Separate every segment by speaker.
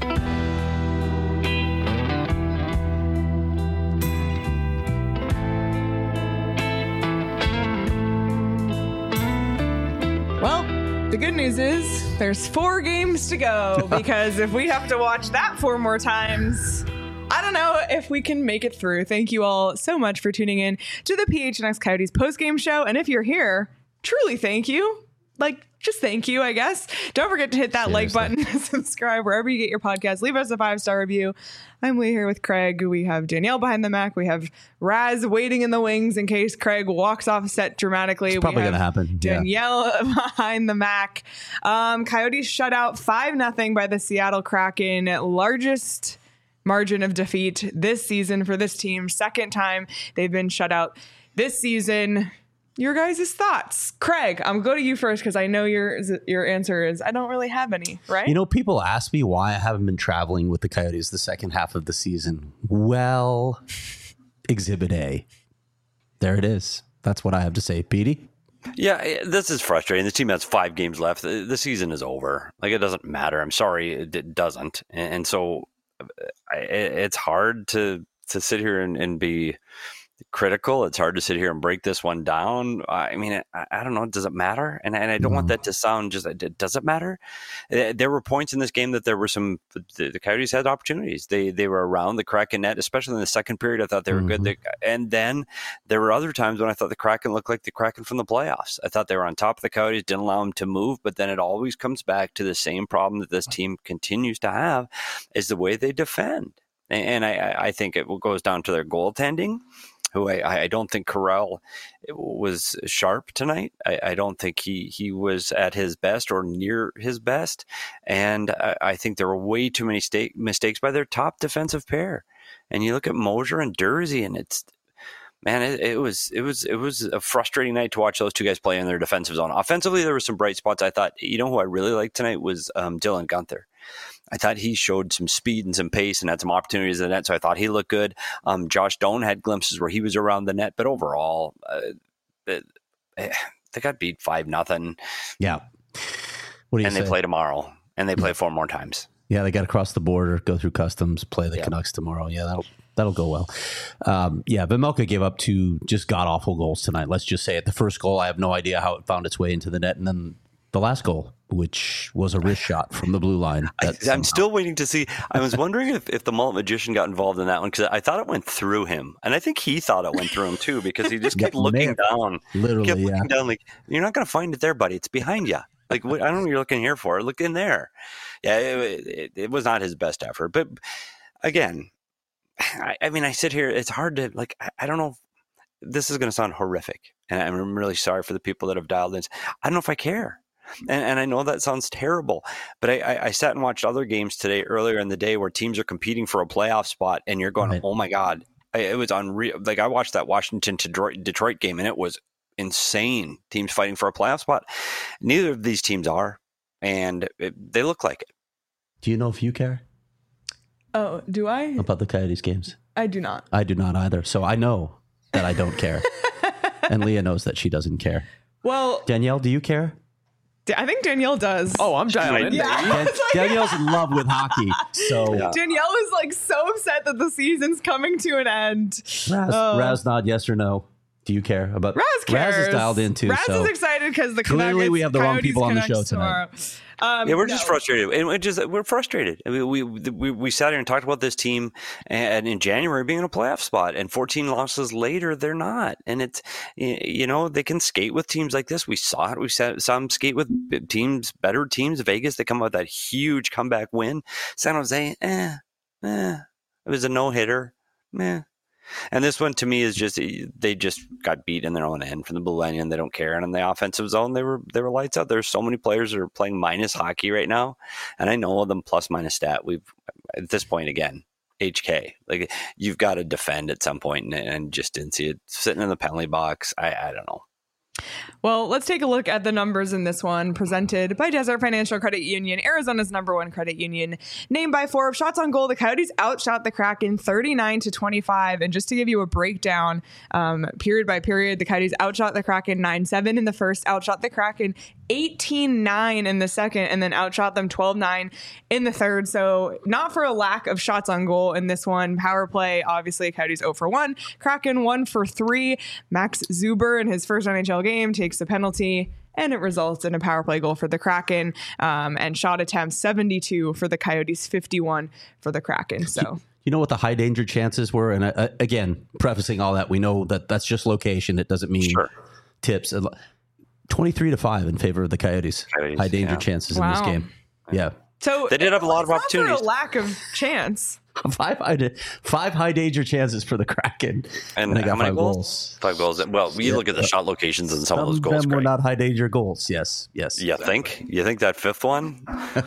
Speaker 1: Well, the good news is there's 4 games to go, because if we have to watch that 4 more times, I don't know if we can make it through. Thank you all so much for tuning in to the PHNX Coyotes postgame show. And if you're here, truly thank you. Just thank you, I guess. Don't forget to hit that like button, subscribe wherever you get your podcast. Leave us a 5-star review. I'm Lee here with Craig. We have Danielle behind the Mac. We have Raz waiting in the wings in case Craig walks off set dramatically.
Speaker 2: It's probably going to happen.
Speaker 1: Danielle behind the Mac. Coyotes shut out 5-0 by the Seattle Kraken. Largest margin of defeat this season for this team. Second time they've been shut out this season. Your guys' thoughts. Craig, I'm going to go to you first because I know your answer is I don't really have any, right?
Speaker 2: You know, people ask me why I haven't been traveling with the Coyotes the second half of the season. Well, Exhibit A. There it is. That's what I have to say. Petey?
Speaker 3: Yeah, this is frustrating. The team has 5 games left. The season is over. It doesn't matter. I'm sorry, it doesn't. And so it's hard to sit here and be critical. It's hard to sit here and break this one down. I mean, I don't know. Does it matter? And I don't want that to sound just, does it matter? There were points in this game that there were the Coyotes had opportunities. They were around the Kraken net, especially in the second period. I thought they were good. And then there were other times when I thought the Kraken looked like the Kraken from the playoffs. I thought they were on top of the Coyotes, didn't allow them to move, but then it always comes back to the same problem that this team continues to have is the way they defend. And I think it goes down to their goaltending, who I don't think Carell was sharp tonight. I don't think he was at his best or near his best. And I think there were way too many mistakes by their top defensive pair. And you look at Mosier and Dursey, and it was a frustrating night to watch those two guys play in their defensive zone. Offensively, there were some bright spots. I thought, who I really liked tonight was Dylan Guenther. I thought he showed some speed and some pace and had some opportunities in the net, so I thought he looked good. Josh Doan had glimpses where he was around the net, but overall, they got beat 5-0.
Speaker 2: Yeah. What do you say?
Speaker 3: They play tomorrow, and they play 4 more times.
Speaker 2: Yeah, they got to cross the border, go through customs, play the Canucks tomorrow. Yeah, that'll go well. Vejmelka gave up 2 just god-awful goals tonight. Let's just say it. The first goal, I have no idea how it found its way into the net, and then the last goal, which was a wrist shot from the blue line.
Speaker 3: I'm still waiting to see. I was wondering if the mullet magician got involved in that one, because I thought it went through him. And I think he thought it went through him too, because he just kept looking down.
Speaker 2: Literally,
Speaker 3: looking down like, you're not going to find it there, buddy. It's behind you. Like, I don't know what you're looking here for. Look in there. Yeah, it was not his best effort. But again, I mean, I sit here. It's hard to, I don't know. This is going to sound horrific. And I'm really sorry for the people that have dialed in. I don't know if I care. And I know that sounds terrible, but I sat and watched other games today earlier in the day where teams are competing for a playoff spot, and you're going, oh my God, it was unreal. Like, I watched that Washington-Detroit game, and it was insane. Teams fighting for a playoff spot. Neither of these teams are, and they look like it.
Speaker 2: Do you know if you care?
Speaker 1: Oh, do I?
Speaker 2: About the Coyotes games?
Speaker 1: I do not.
Speaker 2: I do not either. So I know that I don't care. And Leah knows that she doesn't care.
Speaker 1: Well,
Speaker 2: Danielle, do you care?
Speaker 1: I think Danielle does.
Speaker 4: Oh, I'm dialed in.
Speaker 1: Yeah.
Speaker 2: Danielle's in love with hockey. So
Speaker 1: Danielle is so upset that the season's coming to an end.
Speaker 2: Raz nod, yes or no? Do you care about
Speaker 1: Raz cares.
Speaker 2: Raz is dialed in too.
Speaker 1: Raz is excited because the
Speaker 2: clearly we have the wrong people on the show
Speaker 1: tomorrow.
Speaker 2: tonight.
Speaker 3: We're just frustrated, and we're frustrated. I mean, we sat here and talked about this team, and in January being in a playoff spot, and 14 losses later, they're not. And it's they can skate with teams like this. We saw it. We saw them skate with better teams. Vegas, they come out with that huge comeback win. San Jose, it was a no hitter, And this one to me is just they just got beat in their own end from the blue line, and they don't care. And in the offensive zone, they were lights out. There's so many players that are playing minus hockey right now, and I know them plus minus stat. We've at this point again, HK, like, you've got to defend at some point, and just didn't see it sitting in the penalty box. I don't know.
Speaker 1: Well, let's take a look at the numbers in this one, presented by Desert Financial Credit Union, Arizona's #1 credit union. Named by Forbes, shots on goal, the Coyotes outshot the Kraken 39-25. And just to give you a breakdown, period by period, the Coyotes outshot the Kraken 9-7 in the first, outshot the Kraken 18-9 in the second and then outshot them 12-9 in the third. So not for a lack of shots on goal in this one. Power play, obviously, Coyotes 0 for 1. Kraken 1 for 3. Max Zuber in his first NHL game takes the penalty, and it results in a power play goal for the Kraken, and shot attempts 72 for the Coyotes, 51 for the Kraken. So
Speaker 2: you know what the high danger chances were? And again, prefacing all that, we know that that's just location. It doesn't mean tips. 23-5 in favor of the Coyotes. High danger chances in this game. Yeah.
Speaker 1: So
Speaker 3: they did have a lot of opportunities.
Speaker 1: Not for a lack of chance.
Speaker 2: Five high danger chances for the Kraken,
Speaker 3: and
Speaker 2: they got
Speaker 3: how many
Speaker 2: 5
Speaker 3: goals? 5 goals. Well, we look at the shot locations and some of those goals.
Speaker 2: Them were not high danger goals. Yes.
Speaker 3: You think? You think that fifth one?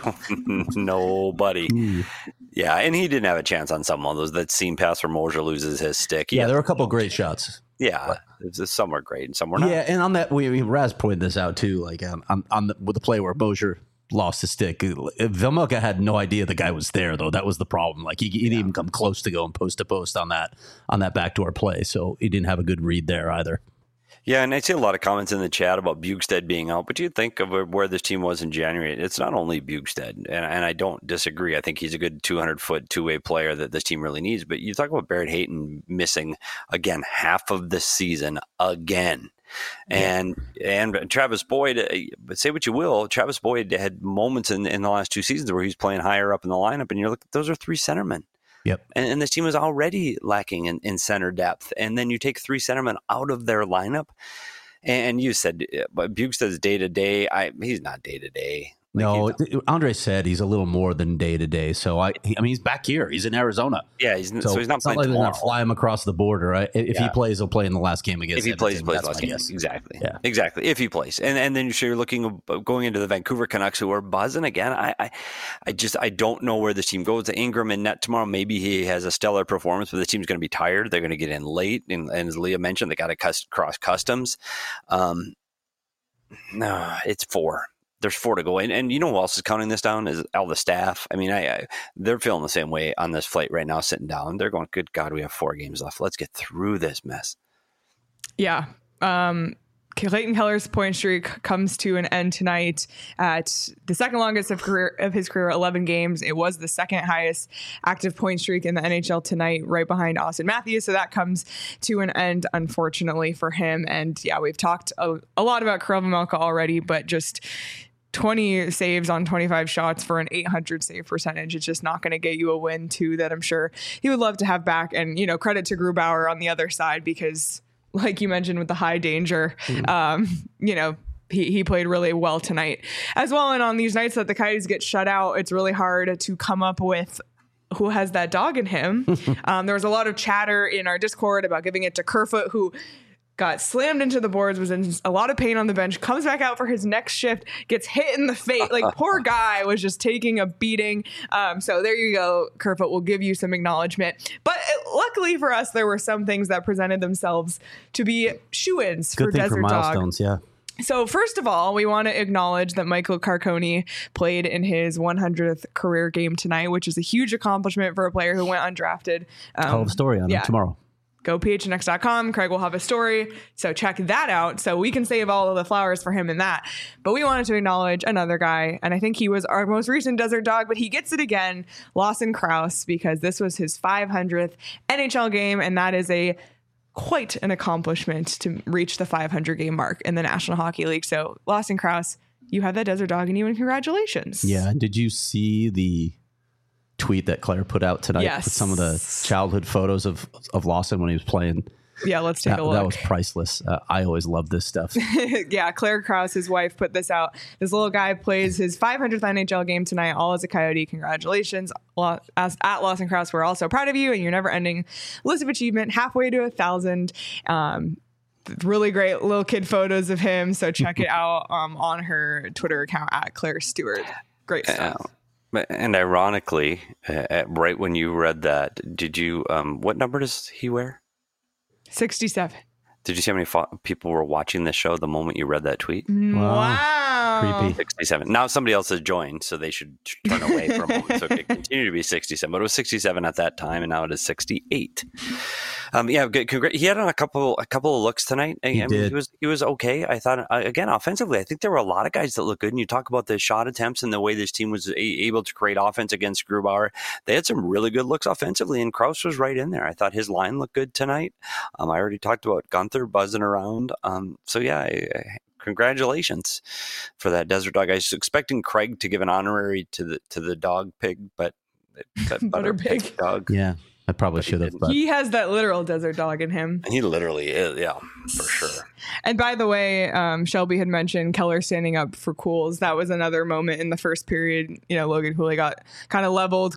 Speaker 3: Nobody. Yeah, and he didn't have a chance on some of ththose. That seam pass where Moser loses his stick.
Speaker 2: Yeah, there were a couple of great shots.
Speaker 3: Yeah, some were great and some were not.
Speaker 2: Yeah, and on that, Raz pointed this out too. Like with the play where Moser lost his stick, Vejmelka had no idea the guy was there, though. That was the problem. Like he didn't even come close to going post to post on that backdoor play, so he didn't have a good read there either.
Speaker 3: Yeah, and I see a lot of comments in the chat about Bjugstad being out, but you think of where this team was in January. It's not only Bjugstad, and I don't disagree. I think he's a good 200-foot two-way player that this team really needs. But you talk about Barrett Hayton missing, again, half of the season again. And Travis Boyd, say what you will, Travis Boyd had moments in the last 2 seasons where he's playing higher up in the lineup, and you're like, those are 3 centermen.
Speaker 2: Yep.
Speaker 3: And this team is already lacking in center depth. And then you take 3 centermen out of their lineup. And you said Bjugstad's day-to-day. He's not day-to-day.
Speaker 2: No, Andre said he's a little more than day-to-day. So, I mean, he's back here. He's in Arizona.
Speaker 3: Yeah, he's not playing tomorrow.
Speaker 2: They're going to fly him across the border. Right? If he plays, he'll play in the last game against
Speaker 3: If he plays the last game. Exactly. Yeah. Exactly. If he plays. And then you're looking going into the Vancouver Canucks, who are buzzing again. I don't know where this team goes. To Ingram and net tomorrow, maybe he has a stellar performance, but the team's going to be tired. They're going to get in late. And as Leah mentioned, they got to cross customs. No, it's 4. There's 4 to go. And you know who else is counting this down is all the staff. I mean, they're feeling the same way on this flight right now, sitting down. They're going, good God, we have 4 games left. Let's get through this mess.
Speaker 1: Yeah. Clayton Keller's point streak comes to an end tonight at the second longest of his career, 11 games. It was the second highest active point streak in the NHL tonight, right behind Austin Matthews. So that comes to an end, unfortunately, for him. And yeah, we've talked a lot about Kirill Vejmelka already, but just 20 saves on 25 shots for an 800 save percentage. It's just not going to get you a win, too, that I'm sure he would love to have back. And, credit to Grubauer on the other side, because like you mentioned with the high danger, he played really well tonight as well. And on these nights that the Coyotes get shut out, it's really hard to come up with who has that dog in him. There was a lot of chatter in our Discord about giving it to Kerfoot, who got slammed into the boards, was in a lot of pain on the bench, comes back out for his next shift, gets hit in the face. Like, poor guy was just taking a beating. So there you go. Kerfoot will give you some acknowledgement. But luckily for us, there were some things that presented themselves to be shoo-ins for Desert Dog.
Speaker 2: Yeah.
Speaker 1: So first of all, we want to acknowledge that Michael Carcone played in his 100th career game tonight, which is a huge accomplishment for a player who went undrafted.
Speaker 2: Tell the story on him tomorrow.
Speaker 1: Go phnx.com. Craig will have a story. So check that out. So we can save all of the flowers for him in that. But we wanted to acknowledge another guy. And I think he was our most recent Desert Dog, but he gets it again. Lawson Crouse, because this was his 500th NHL game. And that is quite an accomplishment to reach the 500 game mark in the National Hockey League. So Lawson Crouse, you have that Desert Dog in you, and congratulations.
Speaker 2: Yeah. Did you see the tweet that Claire put out tonight with some of the childhood photos of Lawson when he was playing?
Speaker 1: Yeah, let's take a look.
Speaker 2: That was priceless. I always love this stuff.
Speaker 1: Yeah, Claire Krause, his wife, put this out. This little guy plays his 500th NHL game tonight, all as a Coyote. Congratulations. At Lawson Crouse, we're also proud of you and your never-ending list of achievement, halfway to 1,000. Really great little kid photos of him, so check it out on her Twitter account at Claire Stewart. Great stuff.
Speaker 3: And ironically, right when you read that, did you, what number does he wear?
Speaker 1: 67.
Speaker 3: Did you see how many people were watching this show the moment you read that tweet?
Speaker 1: Wow.
Speaker 2: Creepy.
Speaker 3: 67. Now somebody else has joined, so they should turn away for a moment. So it could continue to be 67. But it was 67 at that time, and now it is 68. Good. He had a couple of looks tonight. He was okay. I thought again offensively. I think there were a lot of guys that looked good. And you talk about the shot attempts and the way this team was able to create offense against Grubauer. They had some really good looks offensively, and Krause was right in there. I thought his line looked good tonight. I already talked about Gunther buzzing around. Congratulations for that Desert Dog. I was expecting Craig to give an honorary to the dog pig, but butter pig dog.
Speaker 2: Yeah. I probably should have.
Speaker 1: He has that literal desert dog in him.
Speaker 3: He literally is, yeah, for sure.
Speaker 1: And by the way, Shelby had mentioned Keller standing up for Cools. That was another moment in the first period. Logan Cooley got kind of leveled.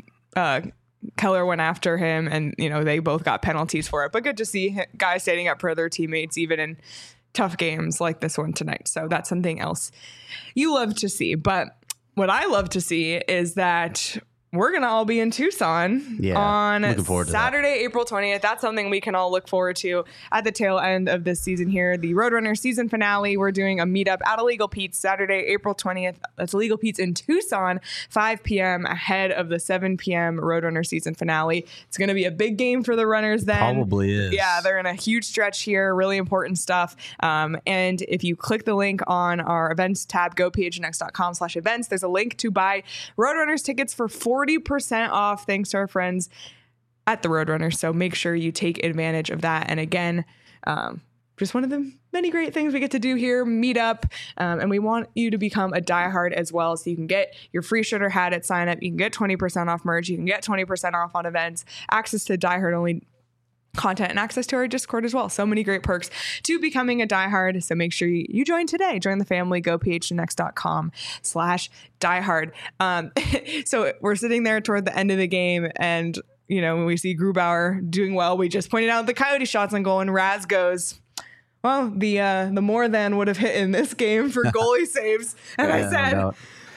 Speaker 1: Keller went after him, and they both got penalties for it. But good to see guys standing up for their teammates, even in tough games like this one tonight. So that's something else you love to see. But what I love to see is that we're going to all be in Tucson on Saturday, April 20th. That's something we can all look forward to at the tail end of this season here. The Roadrunner season finale. We're doing a meetup at Illegal Pete's Saturday, April 20th. That's Illegal Pete's in Tucson, 5 p.m. ahead of the 7 p.m. Roadrunner season finale. It's going to be a big game for the runners then.
Speaker 2: Probably is.
Speaker 1: Yeah, they're in a huge stretch here. Really important stuff. And if you click the link on our events tab, gophnx.com/events, there's a link to buy Roadrunners tickets for 40% off thanks to our friends at the Roadrunner. So make sure you take advantage of that. And again, just one of the many great things we get to do here, meet up. And we want you to become a diehard as well. So you can get your free shirt or hat at sign up. You can get 20% off merch. You can get 20% off on events, access to diehard only content, and access to our Discord as well. So many great perks to becoming a diehard. So make sure you join today. Join the family. Go phnx.com/diehard. So we're sitting there toward the end of the game, and when we see Grubauer doing well, we just pointed out the Coyote shots on goal, and Raz goes, well, the more than would have hit in this game for goalie saves. And I said,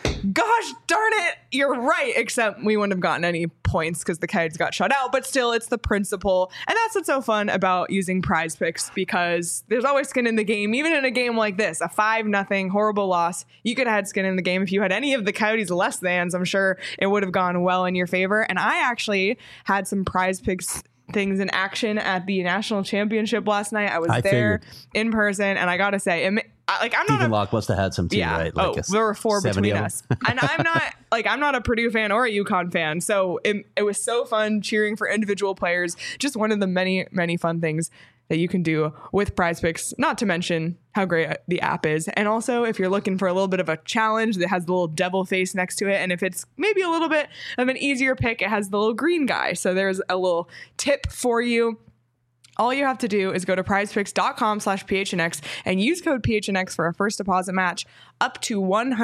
Speaker 1: gosh darn it, you're right, except we wouldn't have gotten any points because the Coyotes got shut out. But still, it's the principle. And that's what's so fun about using Prize Picks, because there's always skin in the game. Even in a game like this, a 5-0 horrible loss, you could have had skin in the game. If you had any of the Coyotes less thans, I'm sure it would have gone well in your favor. And I actually had some Prize Picks things in action at the national championship last night. I was there in person, and I gotta say, I'm not
Speaker 2: Stephen Locke must have had some too, right?
Speaker 1: Like there were 4 between us. And I'm not a Purdue fan or a UConn fan. So it was so fun cheering for individual players. Just one of the many, many fun things that you can do with Prize Picks, not to mention how great the app is. And also, if you're looking for a little bit of a challenge that has the little devil face next to it, and if it's maybe a little bit of an easier pick, it has the little green guy. So there's a little tip for you. All you have to do is go to prizepicks.com/PHNX and use code PHNX for a first deposit match up to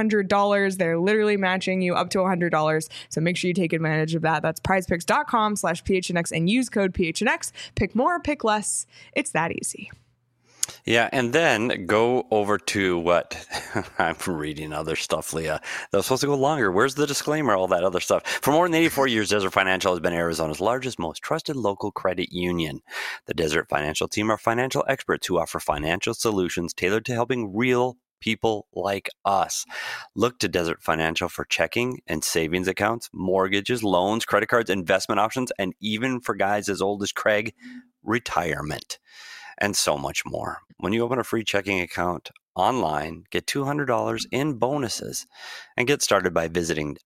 Speaker 1: $100. They're literally matching you up to $100. So make sure you take advantage of that. That's prizepicks.com/PHNX and use code PHNX. Pick more, pick less. It's that easy.
Speaker 3: Yeah, and then go over to what I'm reading other stuff, Leah. That was supposed to go longer. Where's the disclaimer? All that other stuff. For more than 84 years, Desert Financial has been Arizona's largest, most trusted local credit union. The Desert Financial team are financial experts who offer financial solutions tailored to helping real people like us. Look to Desert Financial for checking and savings accounts, mortgages, loans, credit cards, investment options, and even for guys as old as Craig, retirement. And so much more. When you open a free checking account online, get $200 in bonuses and get started by visiting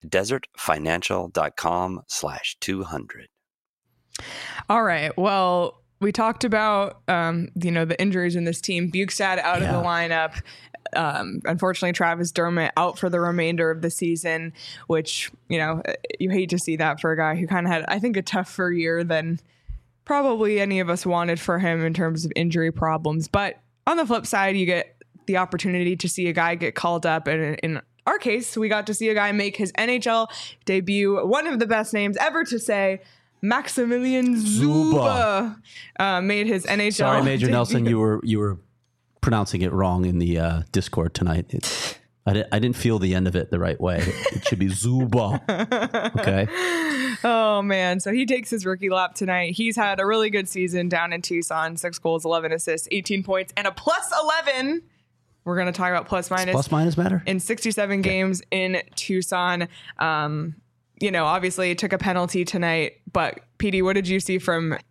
Speaker 3: desertfinancial.com/200.
Speaker 1: All right. Well, we talked about, the injuries in this team. Bukestad out of the lineup. Unfortunately, Travis Dermott out for the remainder of the season, which, you hate to see that for a guy who kind of had, I think, a tougher year than probably any of us wanted for him in terms of injury problems. But on the flip side, you get the opportunity to see a guy get called up. And in our case, we got to see a guy make his NHL debut. One of the best names ever to say, Maximilian Zuba, made his NHL
Speaker 2: Sorry, Major
Speaker 1: debut.
Speaker 2: Nelson, you were pronouncing it wrong in the Discord tonight. I didn't feel the end of it the right way. It should be Zuba. Okay.
Speaker 1: Oh, man. So he takes his rookie lap tonight. He's had a really good season down in Tucson. 6 goals, 11 assists, 18 points, and a plus 11. We're going to talk about plus minus.
Speaker 2: Does plus minus matter?
Speaker 1: In 67 games in Tucson. Obviously took a penalty tonight. But, PD, what did you see from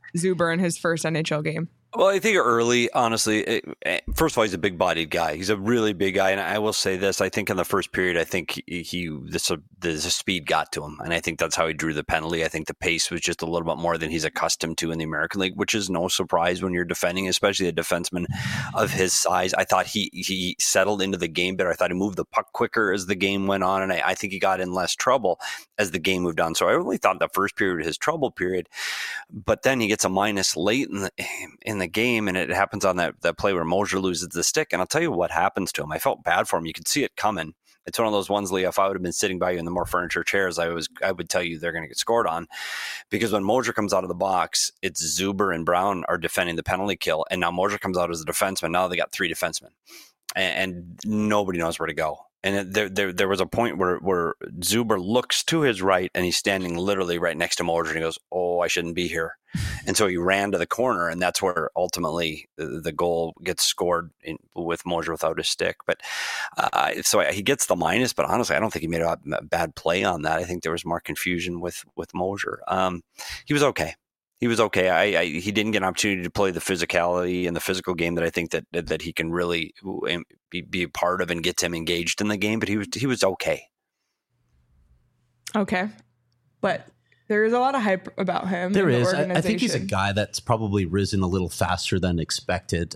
Speaker 1: Zuber in his first NHL game?
Speaker 3: Well, I think early, honestly, first of all, he's a big-bodied guy. He's a really big guy, and I will say this: I think in the first period, I think the speed got to him, and I think that's how he drew the penalty. I think the pace was just a little bit more than he's accustomed to in the American League, which is no surprise when you're defending, especially a defenseman of his size. I thought he settled into the game better. I thought he moved the puck quicker as the game went on, and I think he got in less trouble as the game moved on. So I really thought the first period was his trouble period, but then he gets a minus late in the game, and it happens on that play where Moser loses the stick. And I'll tell you what happens to him. I felt bad for him. You could see it coming. It's one of those ones, Lee, if I would have been sitting by you in the more furniture chairs, I would tell you they're going to get scored on, because when Moser comes out of the box, it's Zuber and Brown are defending the penalty kill. And now Moser comes out as a defenseman. Now they got 3 defensemen and nobody knows where to go. And there was a point where Zuber looks to his right and he's standing literally right next to Moser, and he goes, "Oh, I shouldn't be here." And so he ran to the corner, and that's where ultimately the goal gets scored with Moser without his stick. But so he gets the minus, but honestly, I don't think he made a bad play on that. I think there was more confusion with Moser. He was okay. He was okay. He didn't get an opportunity to play the physicality and the physical game that I think that he can really be a part of and gets him engaged in the game. But he was okay.
Speaker 1: Okay, but there is a lot of hype about him.
Speaker 2: There is. I think he's a guy that's probably risen a little faster than expected.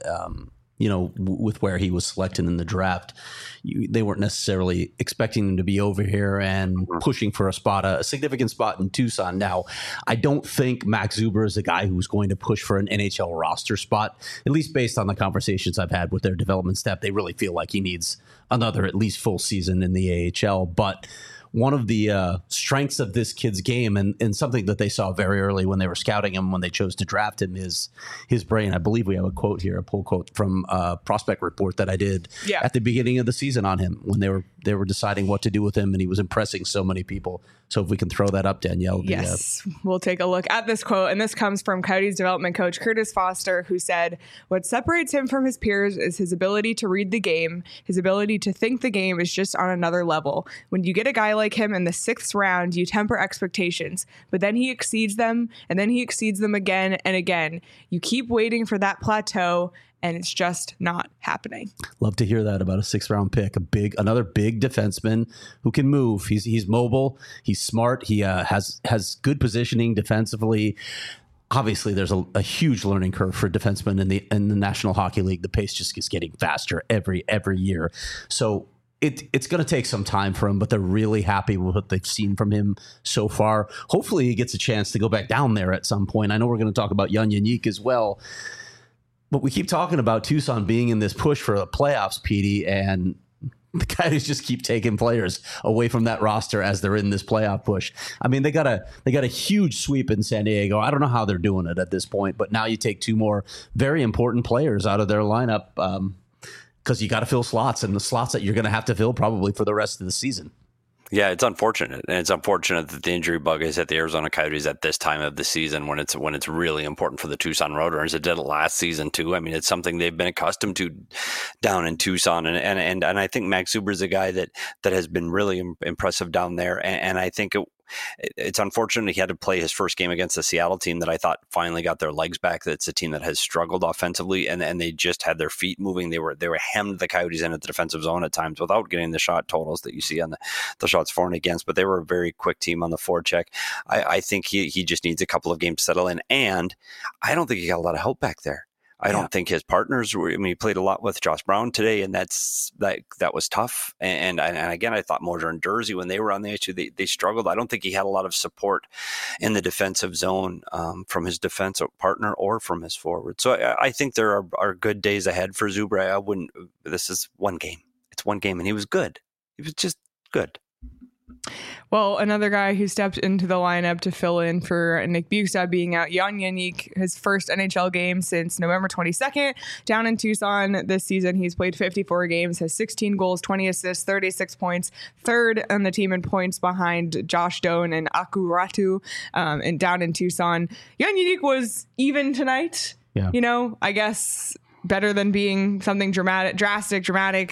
Speaker 2: With where he was selected in the draft, they weren't necessarily expecting him to be over here and pushing for a significant spot in Tucson. Now, I don't think Max Zuber is a guy who's going to push for an NHL roster spot, at least based on the conversations I've had with their development staff. They really feel like he needs another at least full season in the AHL. But one of the strengths of this kid's game, and something that they saw very early when they were scouting him, when they chose to draft him, is his brain. I believe we have a quote here, a pull quote from a prospect report that I did at the beginning of the season on him when they were deciding what to do with him, and he was impressing so many people. So if we can throw that up, Danielle.
Speaker 1: Yes, we'll take a look at this quote. And this comes from Coyotes development coach Curtis Foster, who said, "What separates him from his peers is his ability to read the game. His ability to think the game is just on another level. When you get a guy like him in the 6th round, you temper expectations, but then he exceeds them, and then he exceeds them again and again. You keep waiting for that plateau, and it's just not happening."
Speaker 2: Love to hear that about a 6th round pick. Another big defenseman who can move. He's mobile. He's smart. He has good positioning defensively. Obviously, there's a huge learning curve for defensemen in the National Hockey League. The pace just is getting faster every year. So it's going to take some time for him, but they're really happy with what they've seen from him so far. Hopefully, he gets a chance to go back down there at some point. I know we're going to talk about Jan Jeník as well. But we keep talking about Tucson being in this push for the playoffs, Petey, and the Coyotes just keep taking players away from that roster as they're in this playoff push. I mean, they got a huge sweep in San Diego. I don't know how they're doing it at this point, but now you take 2 more very important players out of their lineup because you got to fill slots, and the slots that you're going to have to fill probably for the rest of the season.
Speaker 3: Yeah, it's unfortunate, and it's unfortunate that the injury bug is at the Arizona Coyotes at this time of the season when it's really important for the Tucson Roadrunners. It did it last season too. I mean, it's something they've been accustomed to down in Tucson, and I think Max Zuber is a guy that has been really impressive down there, and I think it's unfortunate he had to play his first game against the Seattle team that I thought finally got their legs back. That's a team that has struggled offensively, and they just had their feet moving. They were hemmed the Coyotes in at the defensive zone at times without getting the shot totals that you see on the shots for and against. But they were a very quick team on the forecheck. I think he just needs a couple of games to settle in, and I don't think he got a lot of help back there. I don't think his partners were. I mean, he played a lot with Josh Brown today, and that was tough. And again, I thought Moser and Durzi, when they were on the issue, they struggled. I don't think he had a lot of support in the defensive zone from his defensive partner or from his forward. So I think there are good days ahead for Zuber. This is one game. It's one game, and he was good. He was just good.
Speaker 1: Well, another guy who stepped into the lineup to fill in for Nick Bjugstad being out, Jan Jeník, his first NHL game since November 22nd, down in Tucson this season. He's played 54 games, has 16 goals, 20 assists, 36 points, 3rd on the team in points behind Josh Doan and Aku Ratu, and down in Tucson. Jan Jeník was even tonight. Yeah. I guess better than being something drastic,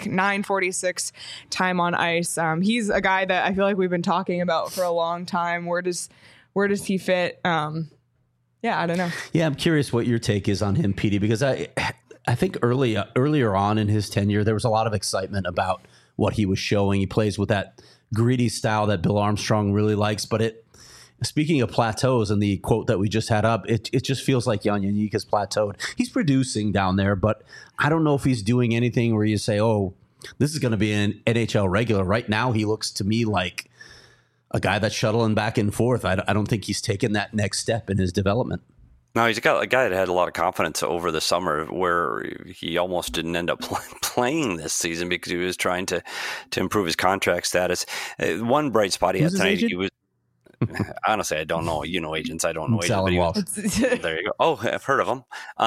Speaker 1: 9:46 time on ice. He's a guy that I feel like we've been talking about for a long time. Where does he fit Yeah, I don't know.
Speaker 2: Yeah, I'm curious what your take is on him, Petey, because I think earlier on in his tenure, there was a lot of excitement about what he was showing. He plays with that greedy style that Bill Armstrong really likes. But speaking of plateaus and the quote that we just had up, it just feels like Jan Jeník has plateaued. He's producing down there, but I don't know if he's doing anything where you say, oh, this is going to be an NHL regular. Right now, he looks to me like a guy that's shuttling back and forth. I don't think he's taken that next step in his development.
Speaker 3: No, he's got a guy that had a lot of confidence over the summer, where he almost didn't end up playing this season because he was trying to improve his contract status. One bright spot he had tonight, he was. Honestly, I don't know. You know agents. I don't know agents. There you go. Oh, I've heard of them.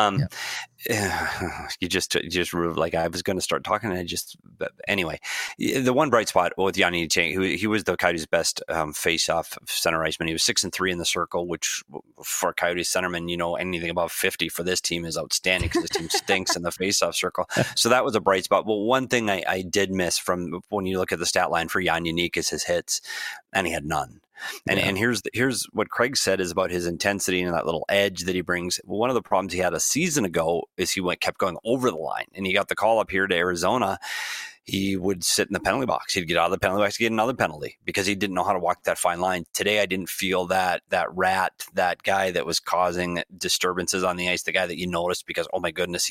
Speaker 3: You just like I was going to start talking, and anyway, the one bright spot with Jan Jeník, he was the Coyotes' best face-off center iceman. He was 6-3 in the circle, which for Coyotes centerman, anything above 50 for this team is outstanding because this team stinks in the face-off circle. So that was a bright spot. But one thing I did miss from when you look at the stat line for Jan Jeník is his hits, and he had none. And here's what Craig said is about his intensity and that little edge that he brings. One of the problems he had a season ago is he kept going over the line, and he got the call up here to Arizona. He would sit in the penalty box. He'd get out of the penalty box, get another penalty because he didn't know how to walk that fine line. Today, I didn't feel that rat, that guy that was causing disturbances on the ice, the guy that you noticed because, oh my goodness,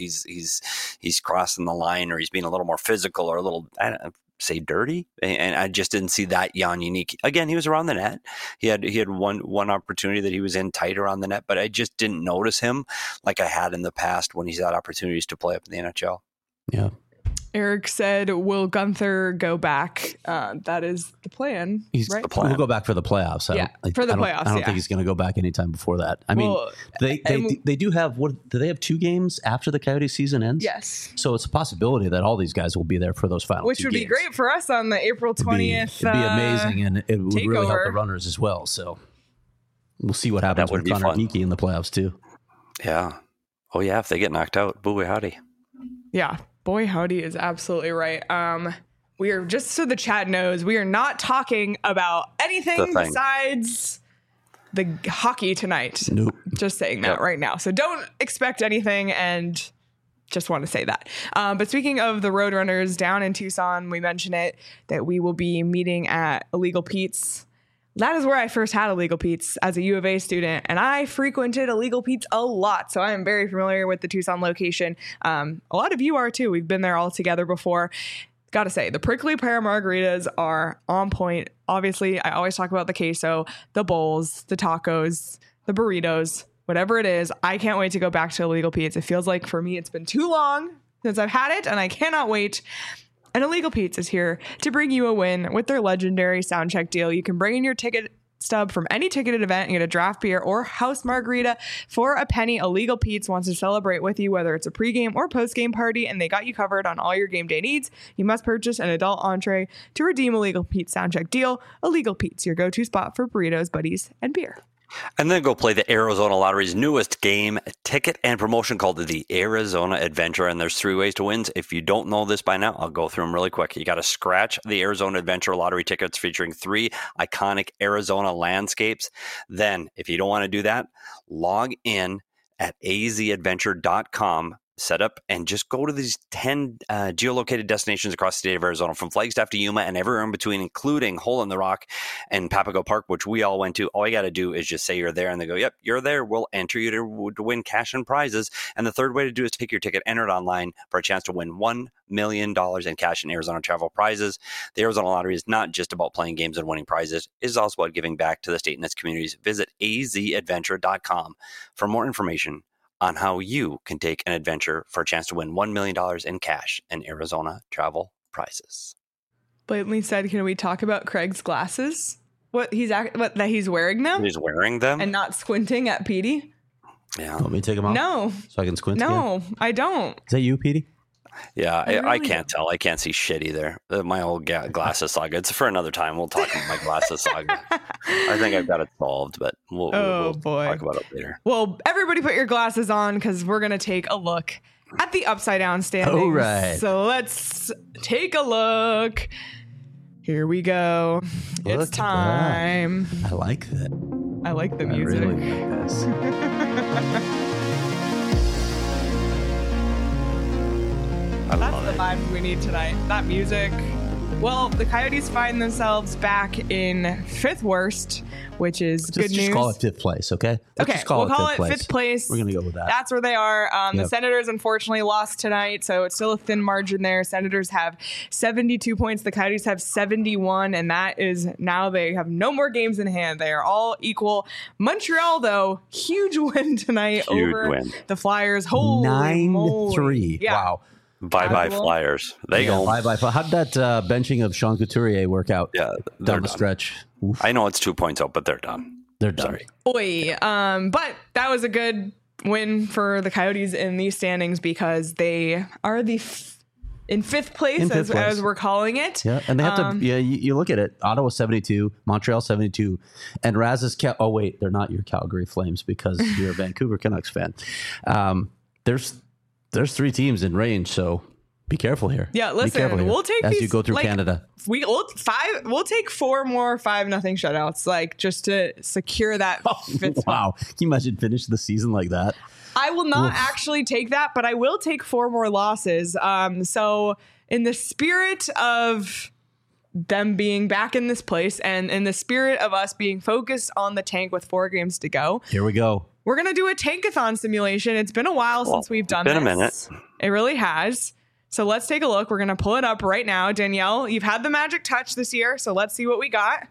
Speaker 3: he's crossing the line, or he's being a little more physical, or a little, I don't know, say dirty, and I just didn't see that Jan Jeník. Again, he was around the net. He had one opportunity that he was in tight around the net, but I just didn't notice him like I had in the past when he's had opportunities to play up in the NHL.
Speaker 2: Yeah.
Speaker 1: Eric said, will Gunther go back? That is the plan, right?
Speaker 2: The plan. He'll go back for the playoffs.
Speaker 1: For the playoffs.
Speaker 2: I don't think he's going to go back anytime before that. I mean, they do have, do they have 2 games after the Coyotes season ends?
Speaker 1: Yes.
Speaker 2: So it's a possibility that all these guys will be there for those final
Speaker 1: Which would
Speaker 2: games.
Speaker 1: be great for us on the April 20th.
Speaker 2: It'd be amazing, and it would really help the runners as well. So we'll see what happens with Connor Geekie in the playoffs too.
Speaker 3: Yeah. Oh yeah, if they get knocked out, boy howdy.
Speaker 1: Yeah. Boy, howdy is absolutely right. We are, just so the chat knows, we are not talking about anything besides the hockey tonight.
Speaker 2: Nope.
Speaker 1: Just saying that right now. So don't expect anything, and just want to say that. But speaking of the Roadrunners down in Tucson, we mentioned it, that we will be meeting at Illegal Pete's. That is where I first had Illegal Pete's as a U of A student, and I frequented Illegal Pete's a lot, so I am very familiar with the Tucson location. A lot of you are too. We've been there all together before. Gotta say, the prickly pear margaritas are on point. Obviously, I always talk about the queso, the bowls, the tacos, the burritos, whatever it is. I can't wait to go back to Illegal Pete's. It feels like for me it's been too long since I've had it, and I cannot wait. And Illegal Pete's is here to bring you a win with their legendary sound check deal. You can bring in your ticket stub from any ticketed event and get a draft beer or house margarita for a penny. Illegal Pete's wants to celebrate with you, whether it's a pregame or postgame party, and they got you covered on all your game day needs. You must purchase an adult entree to redeem Illegal Pete's sound check deal. Illegal Pete's, your go-to spot for burritos, buddies, and beer.
Speaker 3: And then go play the Arizona Lottery's newest game, ticket and promotion called the Arizona Adventure. And there's 3 ways to win. If you don't know this by now, I'll go through them really quick. You got to scratch the Arizona Adventure Lottery tickets featuring 3 iconic Arizona landscapes. Then, if you don't want to do that, log in at azadventure.com. Set up and just go to these 10 geolocated destinations across the state of Arizona, from Flagstaff to Yuma and everywhere in between, including Hole in the Rock and Papago Park, which we all went to. All you got to do is just say you're there, and they go, yep, you're there. We'll enter you to win cash and prizes. And the third way to do is take your ticket, enter it online for a chance to win $1 million in cash and Arizona travel prizes. The Arizona Lottery is not just about playing games and winning prizes. It is also about giving back to the state and its communities. Visit azadventure.com for more information on how you can take an adventure for a chance to win $1 million in cash and Arizona travel prizes.
Speaker 1: Blatantly said, can we talk about Craig's glasses? That he's wearing them?
Speaker 3: He's wearing them?
Speaker 1: And not squinting at Petey?
Speaker 3: Yeah.
Speaker 2: Want me to take them off?
Speaker 1: No.
Speaker 2: So I can squint
Speaker 1: No,
Speaker 2: again?
Speaker 1: I don't.
Speaker 2: Is that you, Petey?
Speaker 3: Yeah, I can't tell. I can't see shit either. My old glasses saga. It's for another time. We'll talk about my glasses saga. I think I've got it solved, but we'll talk about it later.
Speaker 1: Well, everybody put your glasses on because we're going to take a look at the Upside Down standings.
Speaker 2: All right.
Speaker 1: So let's take a look. Here we go. It's time.
Speaker 2: I like that.
Speaker 1: I like the
Speaker 2: I
Speaker 1: music.
Speaker 2: really like this.
Speaker 1: That's the vibes we need tonight. That music. Well, the Coyotes find themselves back in fifth worst, which is good news.
Speaker 2: Just call it fifth place, okay?
Speaker 1: Okay, we'll call it fifth place.
Speaker 2: We're going to go with that.
Speaker 1: That's where they are. The Senators unfortunately lost tonight, so it's still a thin margin there. Senators have 72 points. The Coyotes have 71, and that is now they have no more games in hand. They are all equal. Montreal, though, huge win tonight over the Flyers. Holy
Speaker 2: 9-3.
Speaker 1: Yeah.
Speaker 2: Wow.
Speaker 3: Bye-bye Flyers. They go.
Speaker 2: Bye-bye. How'd that benching of Sean Couturier work out?
Speaker 3: Yeah,
Speaker 2: down the stretch. Oof.
Speaker 3: I know it's 2 points out, but they're done.
Speaker 2: They're done.
Speaker 3: Sorry.
Speaker 1: Oy. But that was a good win for the Coyotes in these standings because they are in fifth place, as we're calling it.
Speaker 2: Yeah, and they have to. Yeah, you look at it. Ottawa 72, Montreal 72, and Raz's. Oh wait, they're not your Calgary Flames because you're a Vancouver Canucks fan. There's 3 teams in range, so be careful here.
Speaker 1: Yeah, listen, we'll take
Speaker 2: as
Speaker 1: these,
Speaker 2: you go through Canada.
Speaker 1: We'll take 4 more 5-0 shutouts, like just to secure that. Fifth
Speaker 2: Wow, can you imagine finish the season like that?
Speaker 1: I will not actually take that, but I will take 4 more losses. So in the spirit of them being back in this place and in the spirit of us being focused on the tank with 4 games to go,
Speaker 2: here we go.
Speaker 1: We're going to do a tankathon simulation. It's been a while since we've done this.
Speaker 3: It's been a minute.
Speaker 1: It really has. So let's take a look. We're going to pull it up right now. Danielle, you've had the magic touch this year, so let's see what we got.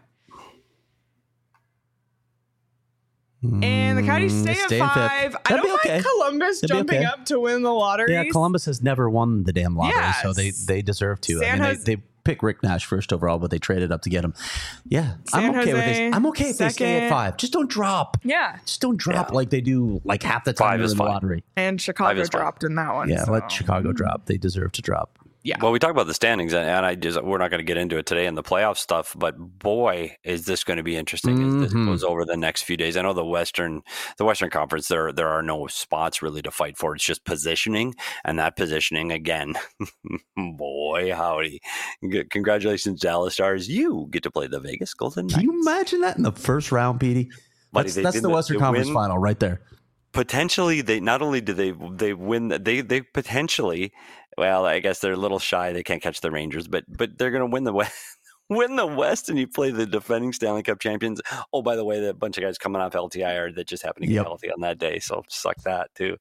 Speaker 1: And the Coyotes stay at 5. I don't like Columbus jumping up to win the lottery.
Speaker 2: Yeah, Columbus has never won the damn lottery, so they deserve to. They pick Rick Nash first overall, but they traded up to get him. Yeah, I'm okay with this. I'm okay if they stay at 5. Just don't drop.
Speaker 1: Yeah.
Speaker 2: Just don't drop like they do like half the time in the lottery.
Speaker 1: And Chicago dropped in that one.
Speaker 2: Yeah, let Chicago drop. They deserve to drop.
Speaker 1: Yeah.
Speaker 3: Well, we talk about the standings, and we're not going to get into it today in the playoff stuff, but boy, is this going to be interesting as this goes over the next few days. I know the Western Conference, there are no spots really to fight for. It's just positioning, and that positioning again, boy, howdy! Congratulations, Dallas Stars! You get to play the Vegas Golden Knights.
Speaker 2: Can you imagine that in the first round, Petey? That's the Western Conference final right there.
Speaker 3: Potentially, they not only do they win, they potentially. Well, I guess they're a little shy. They can't catch the Rangers, but they're going to win the West. Win the West, and you play the defending Stanley Cup champions. Oh, by the way, the bunch of guys coming off LTIR that just happened to get healthy on that day, so suck that too.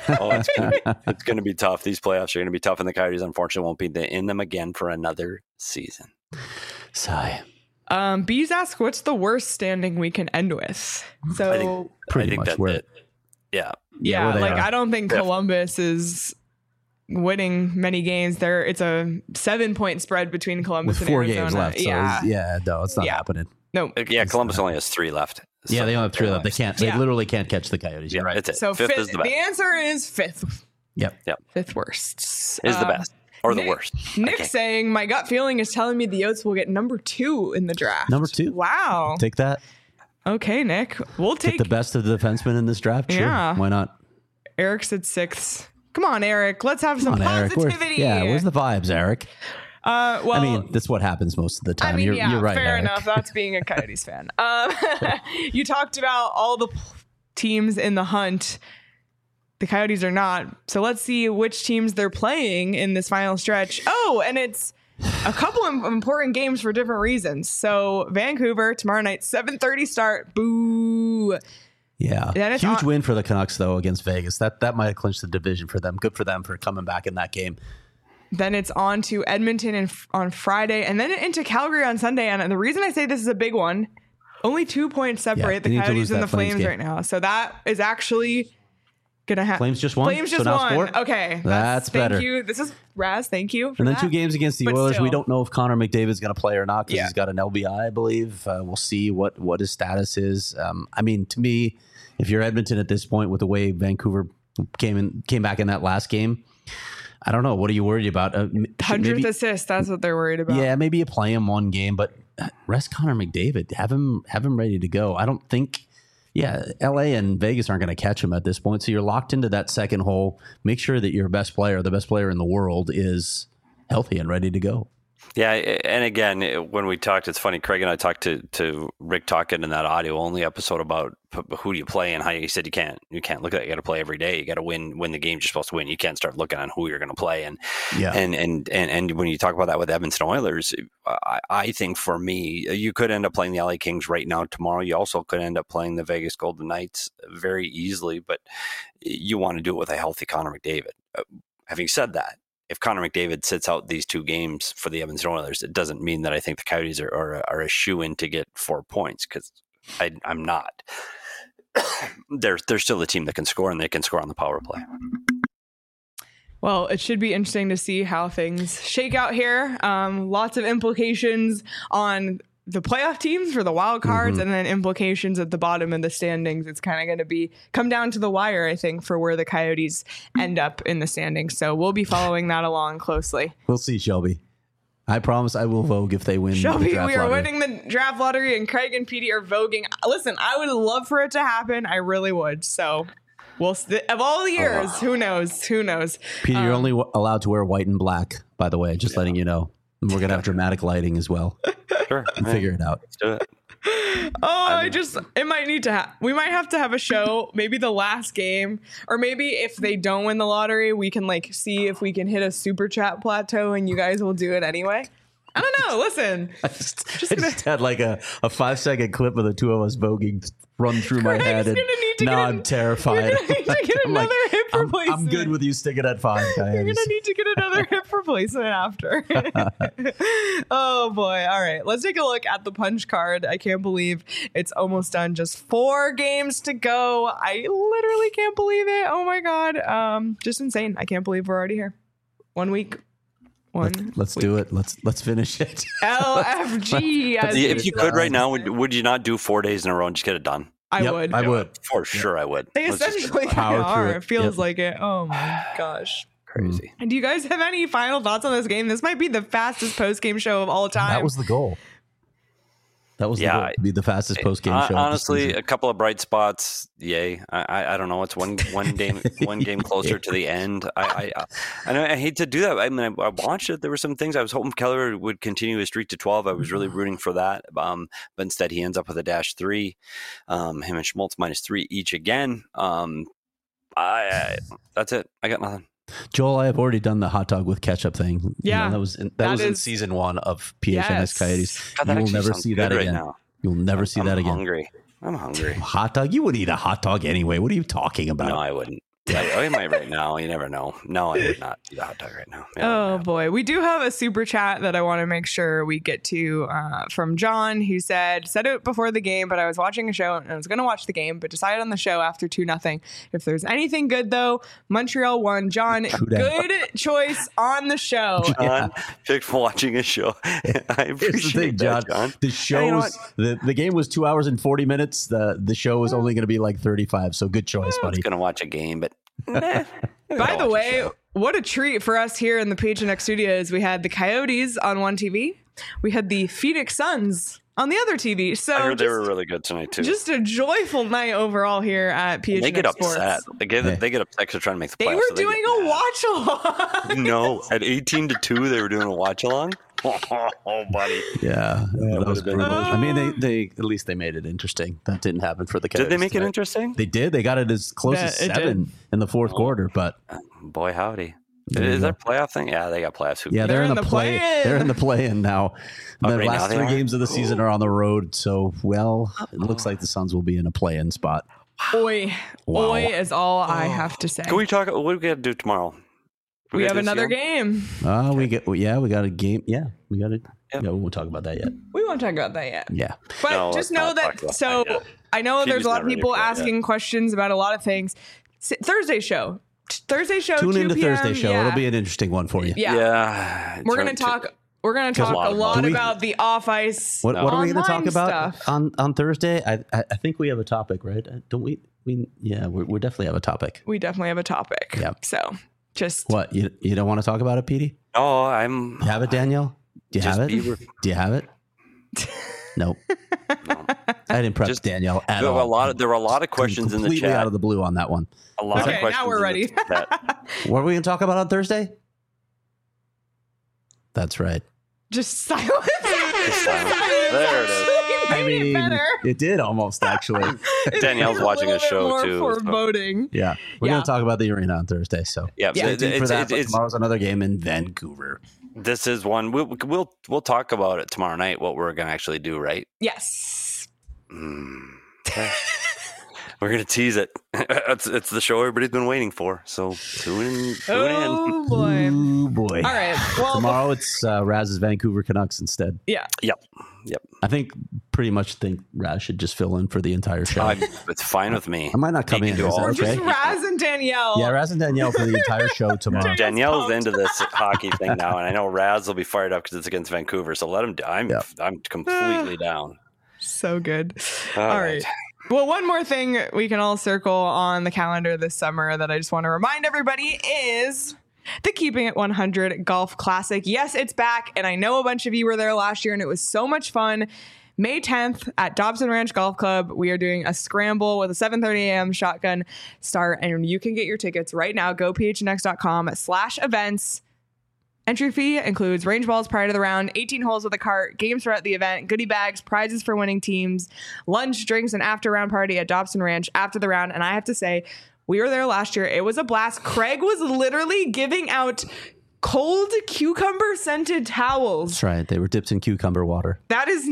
Speaker 3: It's going to be tough. These playoffs are going to be tough, and the Coyotes unfortunately won't be in them again for another season.
Speaker 2: Sigh.
Speaker 1: Bees ask, what's the worst standing we can end with? So
Speaker 3: I think that's it. Yeah.
Speaker 1: I don't think Columbus is winning many games there. It's a 7-point spread between Columbus
Speaker 2: with
Speaker 1: and
Speaker 2: 4
Speaker 1: Arizona.
Speaker 2: games left. So no, it's not happening.
Speaker 1: No.
Speaker 3: Yeah, Columbus only has 3 left.
Speaker 2: They only have 3 left. They literally can't catch the Coyotes. You're right.
Speaker 3: It's it.
Speaker 1: So
Speaker 3: fifth is the best.
Speaker 1: The answer is 5th.
Speaker 2: Yep.
Speaker 1: Fifth worst.
Speaker 3: Is the best. Or the worst.
Speaker 1: Nick saying, my gut feeling is telling me the Yotes will get number 2 in the draft.
Speaker 2: Number 2.
Speaker 1: Wow.
Speaker 2: Take that.
Speaker 1: Okay, Nick. We'll take
Speaker 2: the best of the defensemen in this draft. Sure.
Speaker 1: Yeah.
Speaker 2: Why not?
Speaker 1: Eric said 6th. Come on, Eric. Let's have some positivity.
Speaker 2: Where's the vibes, Eric?
Speaker 1: Well,
Speaker 2: I mean, that's what happens most of the time. You're right,
Speaker 1: fair
Speaker 2: Eric.
Speaker 1: enough. That's being a Coyotes fan. You talked about all the teams in the hunt. The Coyotes are not. So let's see which teams they're playing in this final stretch. Oh, and it's a couple of important games for different reasons. So Vancouver tomorrow night, 7:30 start. Boo.
Speaker 2: Yeah, huge win for the Canucks though against Vegas. That might have clinched the division for them. Good for them for coming back in that game.
Speaker 1: Then it's on to Edmonton on Friday, and then into Calgary on Sunday. And the reason I say this is a big one, only 2 points separate the Coyotes and the Flames right now. So that is actually gonna happen.
Speaker 2: Flames just won.
Speaker 1: Flames just won. Okay,
Speaker 2: that's better.
Speaker 1: Thank you. This is Raz. Thank you. For
Speaker 2: and then
Speaker 1: that.
Speaker 2: 2 games against the Oilers. We don't know if Connor McDavid's going to play or not because he's got an LBI, I believe. We'll see what his status is. I mean, to me, if you're Edmonton at this point with the way Vancouver came back in that last game, I don't know. What are you worried about?
Speaker 1: 100th assist. That's what they're worried about.
Speaker 2: Yeah, maybe you play him one game, but rest Connor McDavid. Have him ready to go. I don't think. Yeah, LA and Vegas aren't going to catch him at this point. So you're locked into that second hole. Make sure that your best player, the best player in the world, is healthy and ready to go.
Speaker 3: Yeah, and again, when we talked, it's funny. Craig and I talked to Rick Tocchet in that audio only episode about who do you play and how he said you can't look at it. You got to play every day. You got to win the games you're supposed to win. You can't start looking on who you're going to play. And when you talk about that with Edmonton Oilers, I think for me, you could end up playing the LA Kings right now tomorrow. You also could end up playing the Vegas Golden Knights very easily, but you want to do it with a healthy Connor McDavid. Having said that, if Connor McDavid sits out these 2 games for the Edmonton Oilers, it doesn't mean that I think the Coyotes are a shoo-in to get 4 points, because I'm not. They're still the team that can score, and they can score on the power play.
Speaker 1: Well, it should be interesting to see how things shake out here. Lots of implications on the playoff teams for the wild cards, and then implications at the bottom of the standings. It's kind of going to come down to the wire, I think, for where the Coyotes end up in the standings. So we'll be following that along closely.
Speaker 2: We'll see, Shelby. I promise I will vogue if they win.
Speaker 1: Shelby,
Speaker 2: the draft
Speaker 1: we are
Speaker 2: lottery.
Speaker 1: winning the draft lottery, and Craig and Petey are voguing. Listen, I would love for it to happen. I really would. So of all the years, who knows? Who knows?
Speaker 2: Peter, you're only allowed to wear white and black, by the way, just letting you know. And we're going to have dramatic lighting as well.
Speaker 3: Sure.
Speaker 2: And figure it out.
Speaker 3: Let's do it.
Speaker 1: It might need to we might have to have a show, maybe the last game, or maybe if they don't win the lottery, we can see if we can hit a super chat plateau and you guys will do it anyway. I don't know. Listen,
Speaker 2: I just had like a 5-second clip of the 2 of us voguing run through my head, and now I'm terrified.
Speaker 1: You're gonna need to get another hip replacement.
Speaker 2: I'm good with you sticking at 5.
Speaker 1: You're gonna need to get another hip replacement after. Oh boy! All right, let's take a look at the punch card. I can't believe it's almost done. Just 4 games to go. I literally can't believe it. Oh my god! Just insane. I can't believe we're already here. 1 week.
Speaker 2: Let's do it. Let's finish it.
Speaker 1: LFG.
Speaker 3: If you could right now, would you not do 4 days in a row and just get it done?
Speaker 1: I would.
Speaker 2: I would.
Speaker 3: For sure, I would.
Speaker 1: They essentially are. It feels like it. Oh my gosh.
Speaker 3: Crazy.
Speaker 1: And do you guys have any final thoughts on this game? This might be the fastest post-game show of all time.
Speaker 2: That was the goal. That was the goal, to be the fastest post-game show.
Speaker 3: Honestly, a couple of bright spots. Yay! I don't know. It's one game closer to the end. I know I hate to do that. I mean, I watched it. There were some things I was hoping Keller would continue his streak to 12. I was really rooting for that. But instead, he ends up with a -3. Him and Schmaltz -3 each again. That's it. I got nothing.
Speaker 2: Joel, I have already done the hot dog with ketchup thing.
Speaker 1: Yeah,
Speaker 2: that was in season 1 of PHNX Coyotes. You will never see that again. Right, you'll never see that again.
Speaker 3: I'm hungry.
Speaker 2: Hot dog? You would eat a hot dog anyway. What are you talking about?
Speaker 3: No, I wouldn't. I might right now. You never know. No, I would not eat a hot dog right now.
Speaker 1: Oh boy, we do have a super chat that I want to make sure we get to from John, who said it before the game, but I was watching a show and I was going to watch the game, but decided on the show after 2-0. If there's anything good though, Montreal won. John, good choice on the show.
Speaker 3: John picked watching a show. I appreciate that, John.
Speaker 2: The show the game was 2 hours and 40 minutes. The show was only going to be like 35. So good choice, buddy.
Speaker 3: I was going to watch a game, but.
Speaker 1: By the way, what a treat for us here in the PHNX studios. We had the Coyotes on one TV. We had the Phoenix Suns on the other TV. So
Speaker 3: I heard they were really good tonight too.
Speaker 1: Just a joyful night overall here at PHNX
Speaker 3: They get
Speaker 1: Sports.
Speaker 3: upset. They get upset because they're trying to make the playoffs.
Speaker 1: They were doing a watch along.
Speaker 3: No, at 18-2, they were doing a watch along. Oh, buddy.
Speaker 2: Yeah. That was brutal. I mean, they at least they made it interesting. That didn't happen for the Coyotes.
Speaker 3: Did they make it interesting?
Speaker 2: They did. They got it as close as 7 in the fourth quarter, but
Speaker 3: boy, howdy. Is that a playoff thing? Yeah, they got playoffs.
Speaker 2: Yeah, they're in the play. They're in the play-in now. The
Speaker 3: right
Speaker 2: last
Speaker 3: now
Speaker 2: 3 games of the season are on the road, so it looks like the Suns will be in a play-in spot.
Speaker 1: Oi is all I have to say.
Speaker 3: Can we talk? What do we got to do tomorrow?
Speaker 1: We have another game.
Speaker 2: We got a game. Yeah, we got it. Yeah, we won't talk about that yet.
Speaker 1: We won't talk about that yet.
Speaker 2: Yeah.
Speaker 1: But just know that. So I know there's a lot of people asking questions about a lot of things. Thursday show.
Speaker 2: Tune into Thursday show. It'll be an interesting one for you.
Speaker 1: Yeah. We're gonna talk. We're going to talk a lot about the off-ice.
Speaker 2: What are we going to talk about on Thursday? I think we have a topic, right? Don't we? We definitely have a topic.
Speaker 1: We definitely have a topic.
Speaker 2: Yeah.
Speaker 1: So just
Speaker 2: what you don't want to talk about it, Petey?
Speaker 3: Oh,
Speaker 2: You have it, Danielle? Do you have it? Do you have it? Nope. No. I didn't prep Danielle at all.
Speaker 3: There were a lot of questions in the chat.
Speaker 2: Completely out of the blue on that one.
Speaker 3: A lot of questions.
Speaker 1: Now we're ready.
Speaker 2: What are we going to talk about on Thursday? That's right.
Speaker 1: Just silence.
Speaker 3: There it is.
Speaker 2: I mean, it did almost actually.
Speaker 3: Danielle's watching a show too.
Speaker 1: Foreboding.
Speaker 2: Yeah, we're going to talk about the arena on Thursday. So
Speaker 3: stay
Speaker 2: tuned for that. But tomorrow's another game in Vancouver.
Speaker 3: This is one we'll talk about it tomorrow night. What we're going to actually do, right?
Speaker 1: Yes.
Speaker 3: We're going to tease it. It's the show everybody's been waiting for. So tune in.
Speaker 1: Oh, boy.
Speaker 2: Oh, boy.
Speaker 1: All right. Well,
Speaker 2: tomorrow it's Raz's Vancouver Canucks instead.
Speaker 1: Yeah.
Speaker 3: Yep.
Speaker 2: I pretty much think Raz should just fill in for the entire show.
Speaker 3: It's fine with me.
Speaker 2: I might not come in. Is that okay?
Speaker 1: Just Raz and Danielle.
Speaker 2: Yeah, Raz and Danielle for the entire show tomorrow.
Speaker 3: Danielle's into this hockey thing now, and I know Raz will be fired up because it's against Vancouver. So let him. I'm completely down.
Speaker 1: So good. All right. Well, one more thing we can all circle on the calendar this summer that I just want to remind everybody is the Keeping It 100 Golf Classic. Yes, it's back, and I know a bunch of you were there last year, and it was so much fun. May 10th at Dobson Ranch Golf Club, we are doing a scramble with a 7:30 a.m. shotgun start, and you can get your tickets right now. Go phnx.com/events. Entry fee includes range balls prior to the round, 18 holes with a cart, games throughout the event, goodie bags, prizes for winning teams, lunch, drinks, and after-round party at Dobson Ranch after the round. And I have to say, we were there last year. It was a blast. Craig was literally giving out cold cucumber-scented towels.
Speaker 2: That's right. They were dipped in cucumber water.
Speaker 1: That is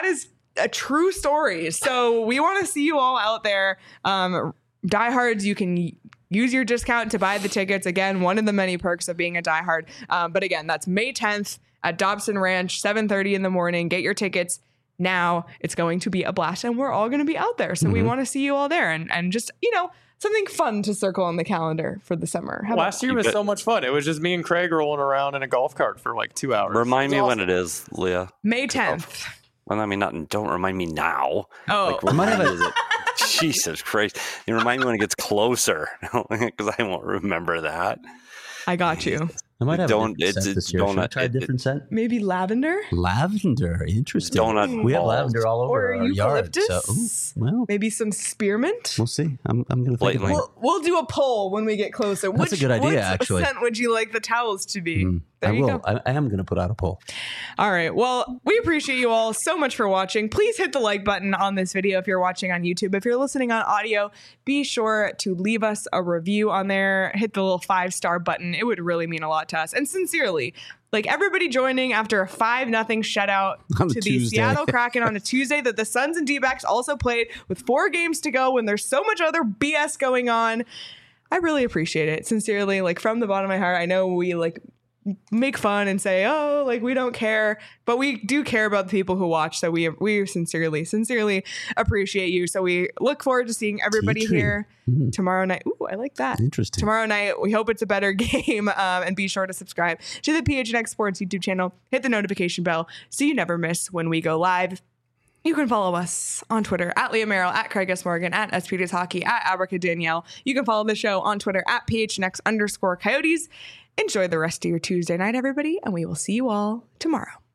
Speaker 1: a true story. So we want to see you all out there. Diehards, you can use your discount to buy the tickets. Again, one of the many perks of being a diehard. But again, that's May 10th at Dobson Ranch, 7:30 in the morning. Get your tickets now. It's going to be a blast, and we're all going to be out there. So we want to see you all there, and just, something fun to circle on the calendar for the summer.
Speaker 4: Last year was so much fun. It was just me and Craig rolling around in a golf cart for like 2 hours.
Speaker 3: Remind me when it is, Leah.
Speaker 1: May 10th.
Speaker 3: Well, I mean, don't remind me now.
Speaker 1: Oh,
Speaker 3: remind me. Jesus Christ. You remind me when it gets closer, because I won't remember that.
Speaker 1: I got you.
Speaker 2: I might have a different scent this year. Should I try a different scent?
Speaker 1: Maybe lavender?
Speaker 2: Lavender. Interesting.
Speaker 3: Donut
Speaker 2: we have lavender all over our
Speaker 1: eucalyptus?
Speaker 2: yard. So,
Speaker 1: maybe some spearmint?
Speaker 2: We'll see. I'm going to think about it.
Speaker 1: We'll do a poll when we get closer.
Speaker 2: That's a good idea, actually.
Speaker 1: What scent would you like the towels to be?
Speaker 2: I will. I am going to put out a poll.
Speaker 1: All right. Well, we appreciate you all so much for watching. Please hit the like button on this video if you're watching on YouTube. If you're listening on audio, be sure to leave us a review on there. Hit the little 5-star button. It would really mean a lot to us. And sincerely, like everybody joining after a 5-0 shutout to the Seattle Kraken on a Tuesday that the Suns and D-backs also played with 4 games to go when there's so much other BS going on. I really appreciate it. Sincerely, like from the bottom of my heart. I know we make fun and say, oh, like we don't care, but we do care about the people who watch. So we sincerely appreciate you. So we look forward to seeing everybody here tomorrow night. Ooh, I like that.
Speaker 2: Interesting.
Speaker 1: Tomorrow night. We hope it's a better game. And be sure to subscribe to the PHNX Sports YouTube channel. Hit the notification bell so you never miss when we go live. You can follow us on Twitter at Leah Merrill, at Craig S. Morgan, at SPDS Hockey, at Abrica Danielle. You can follow the show on Twitter at PHNX_Coyotes. Enjoy the rest of your Tuesday night, everybody, and we will see you all tomorrow.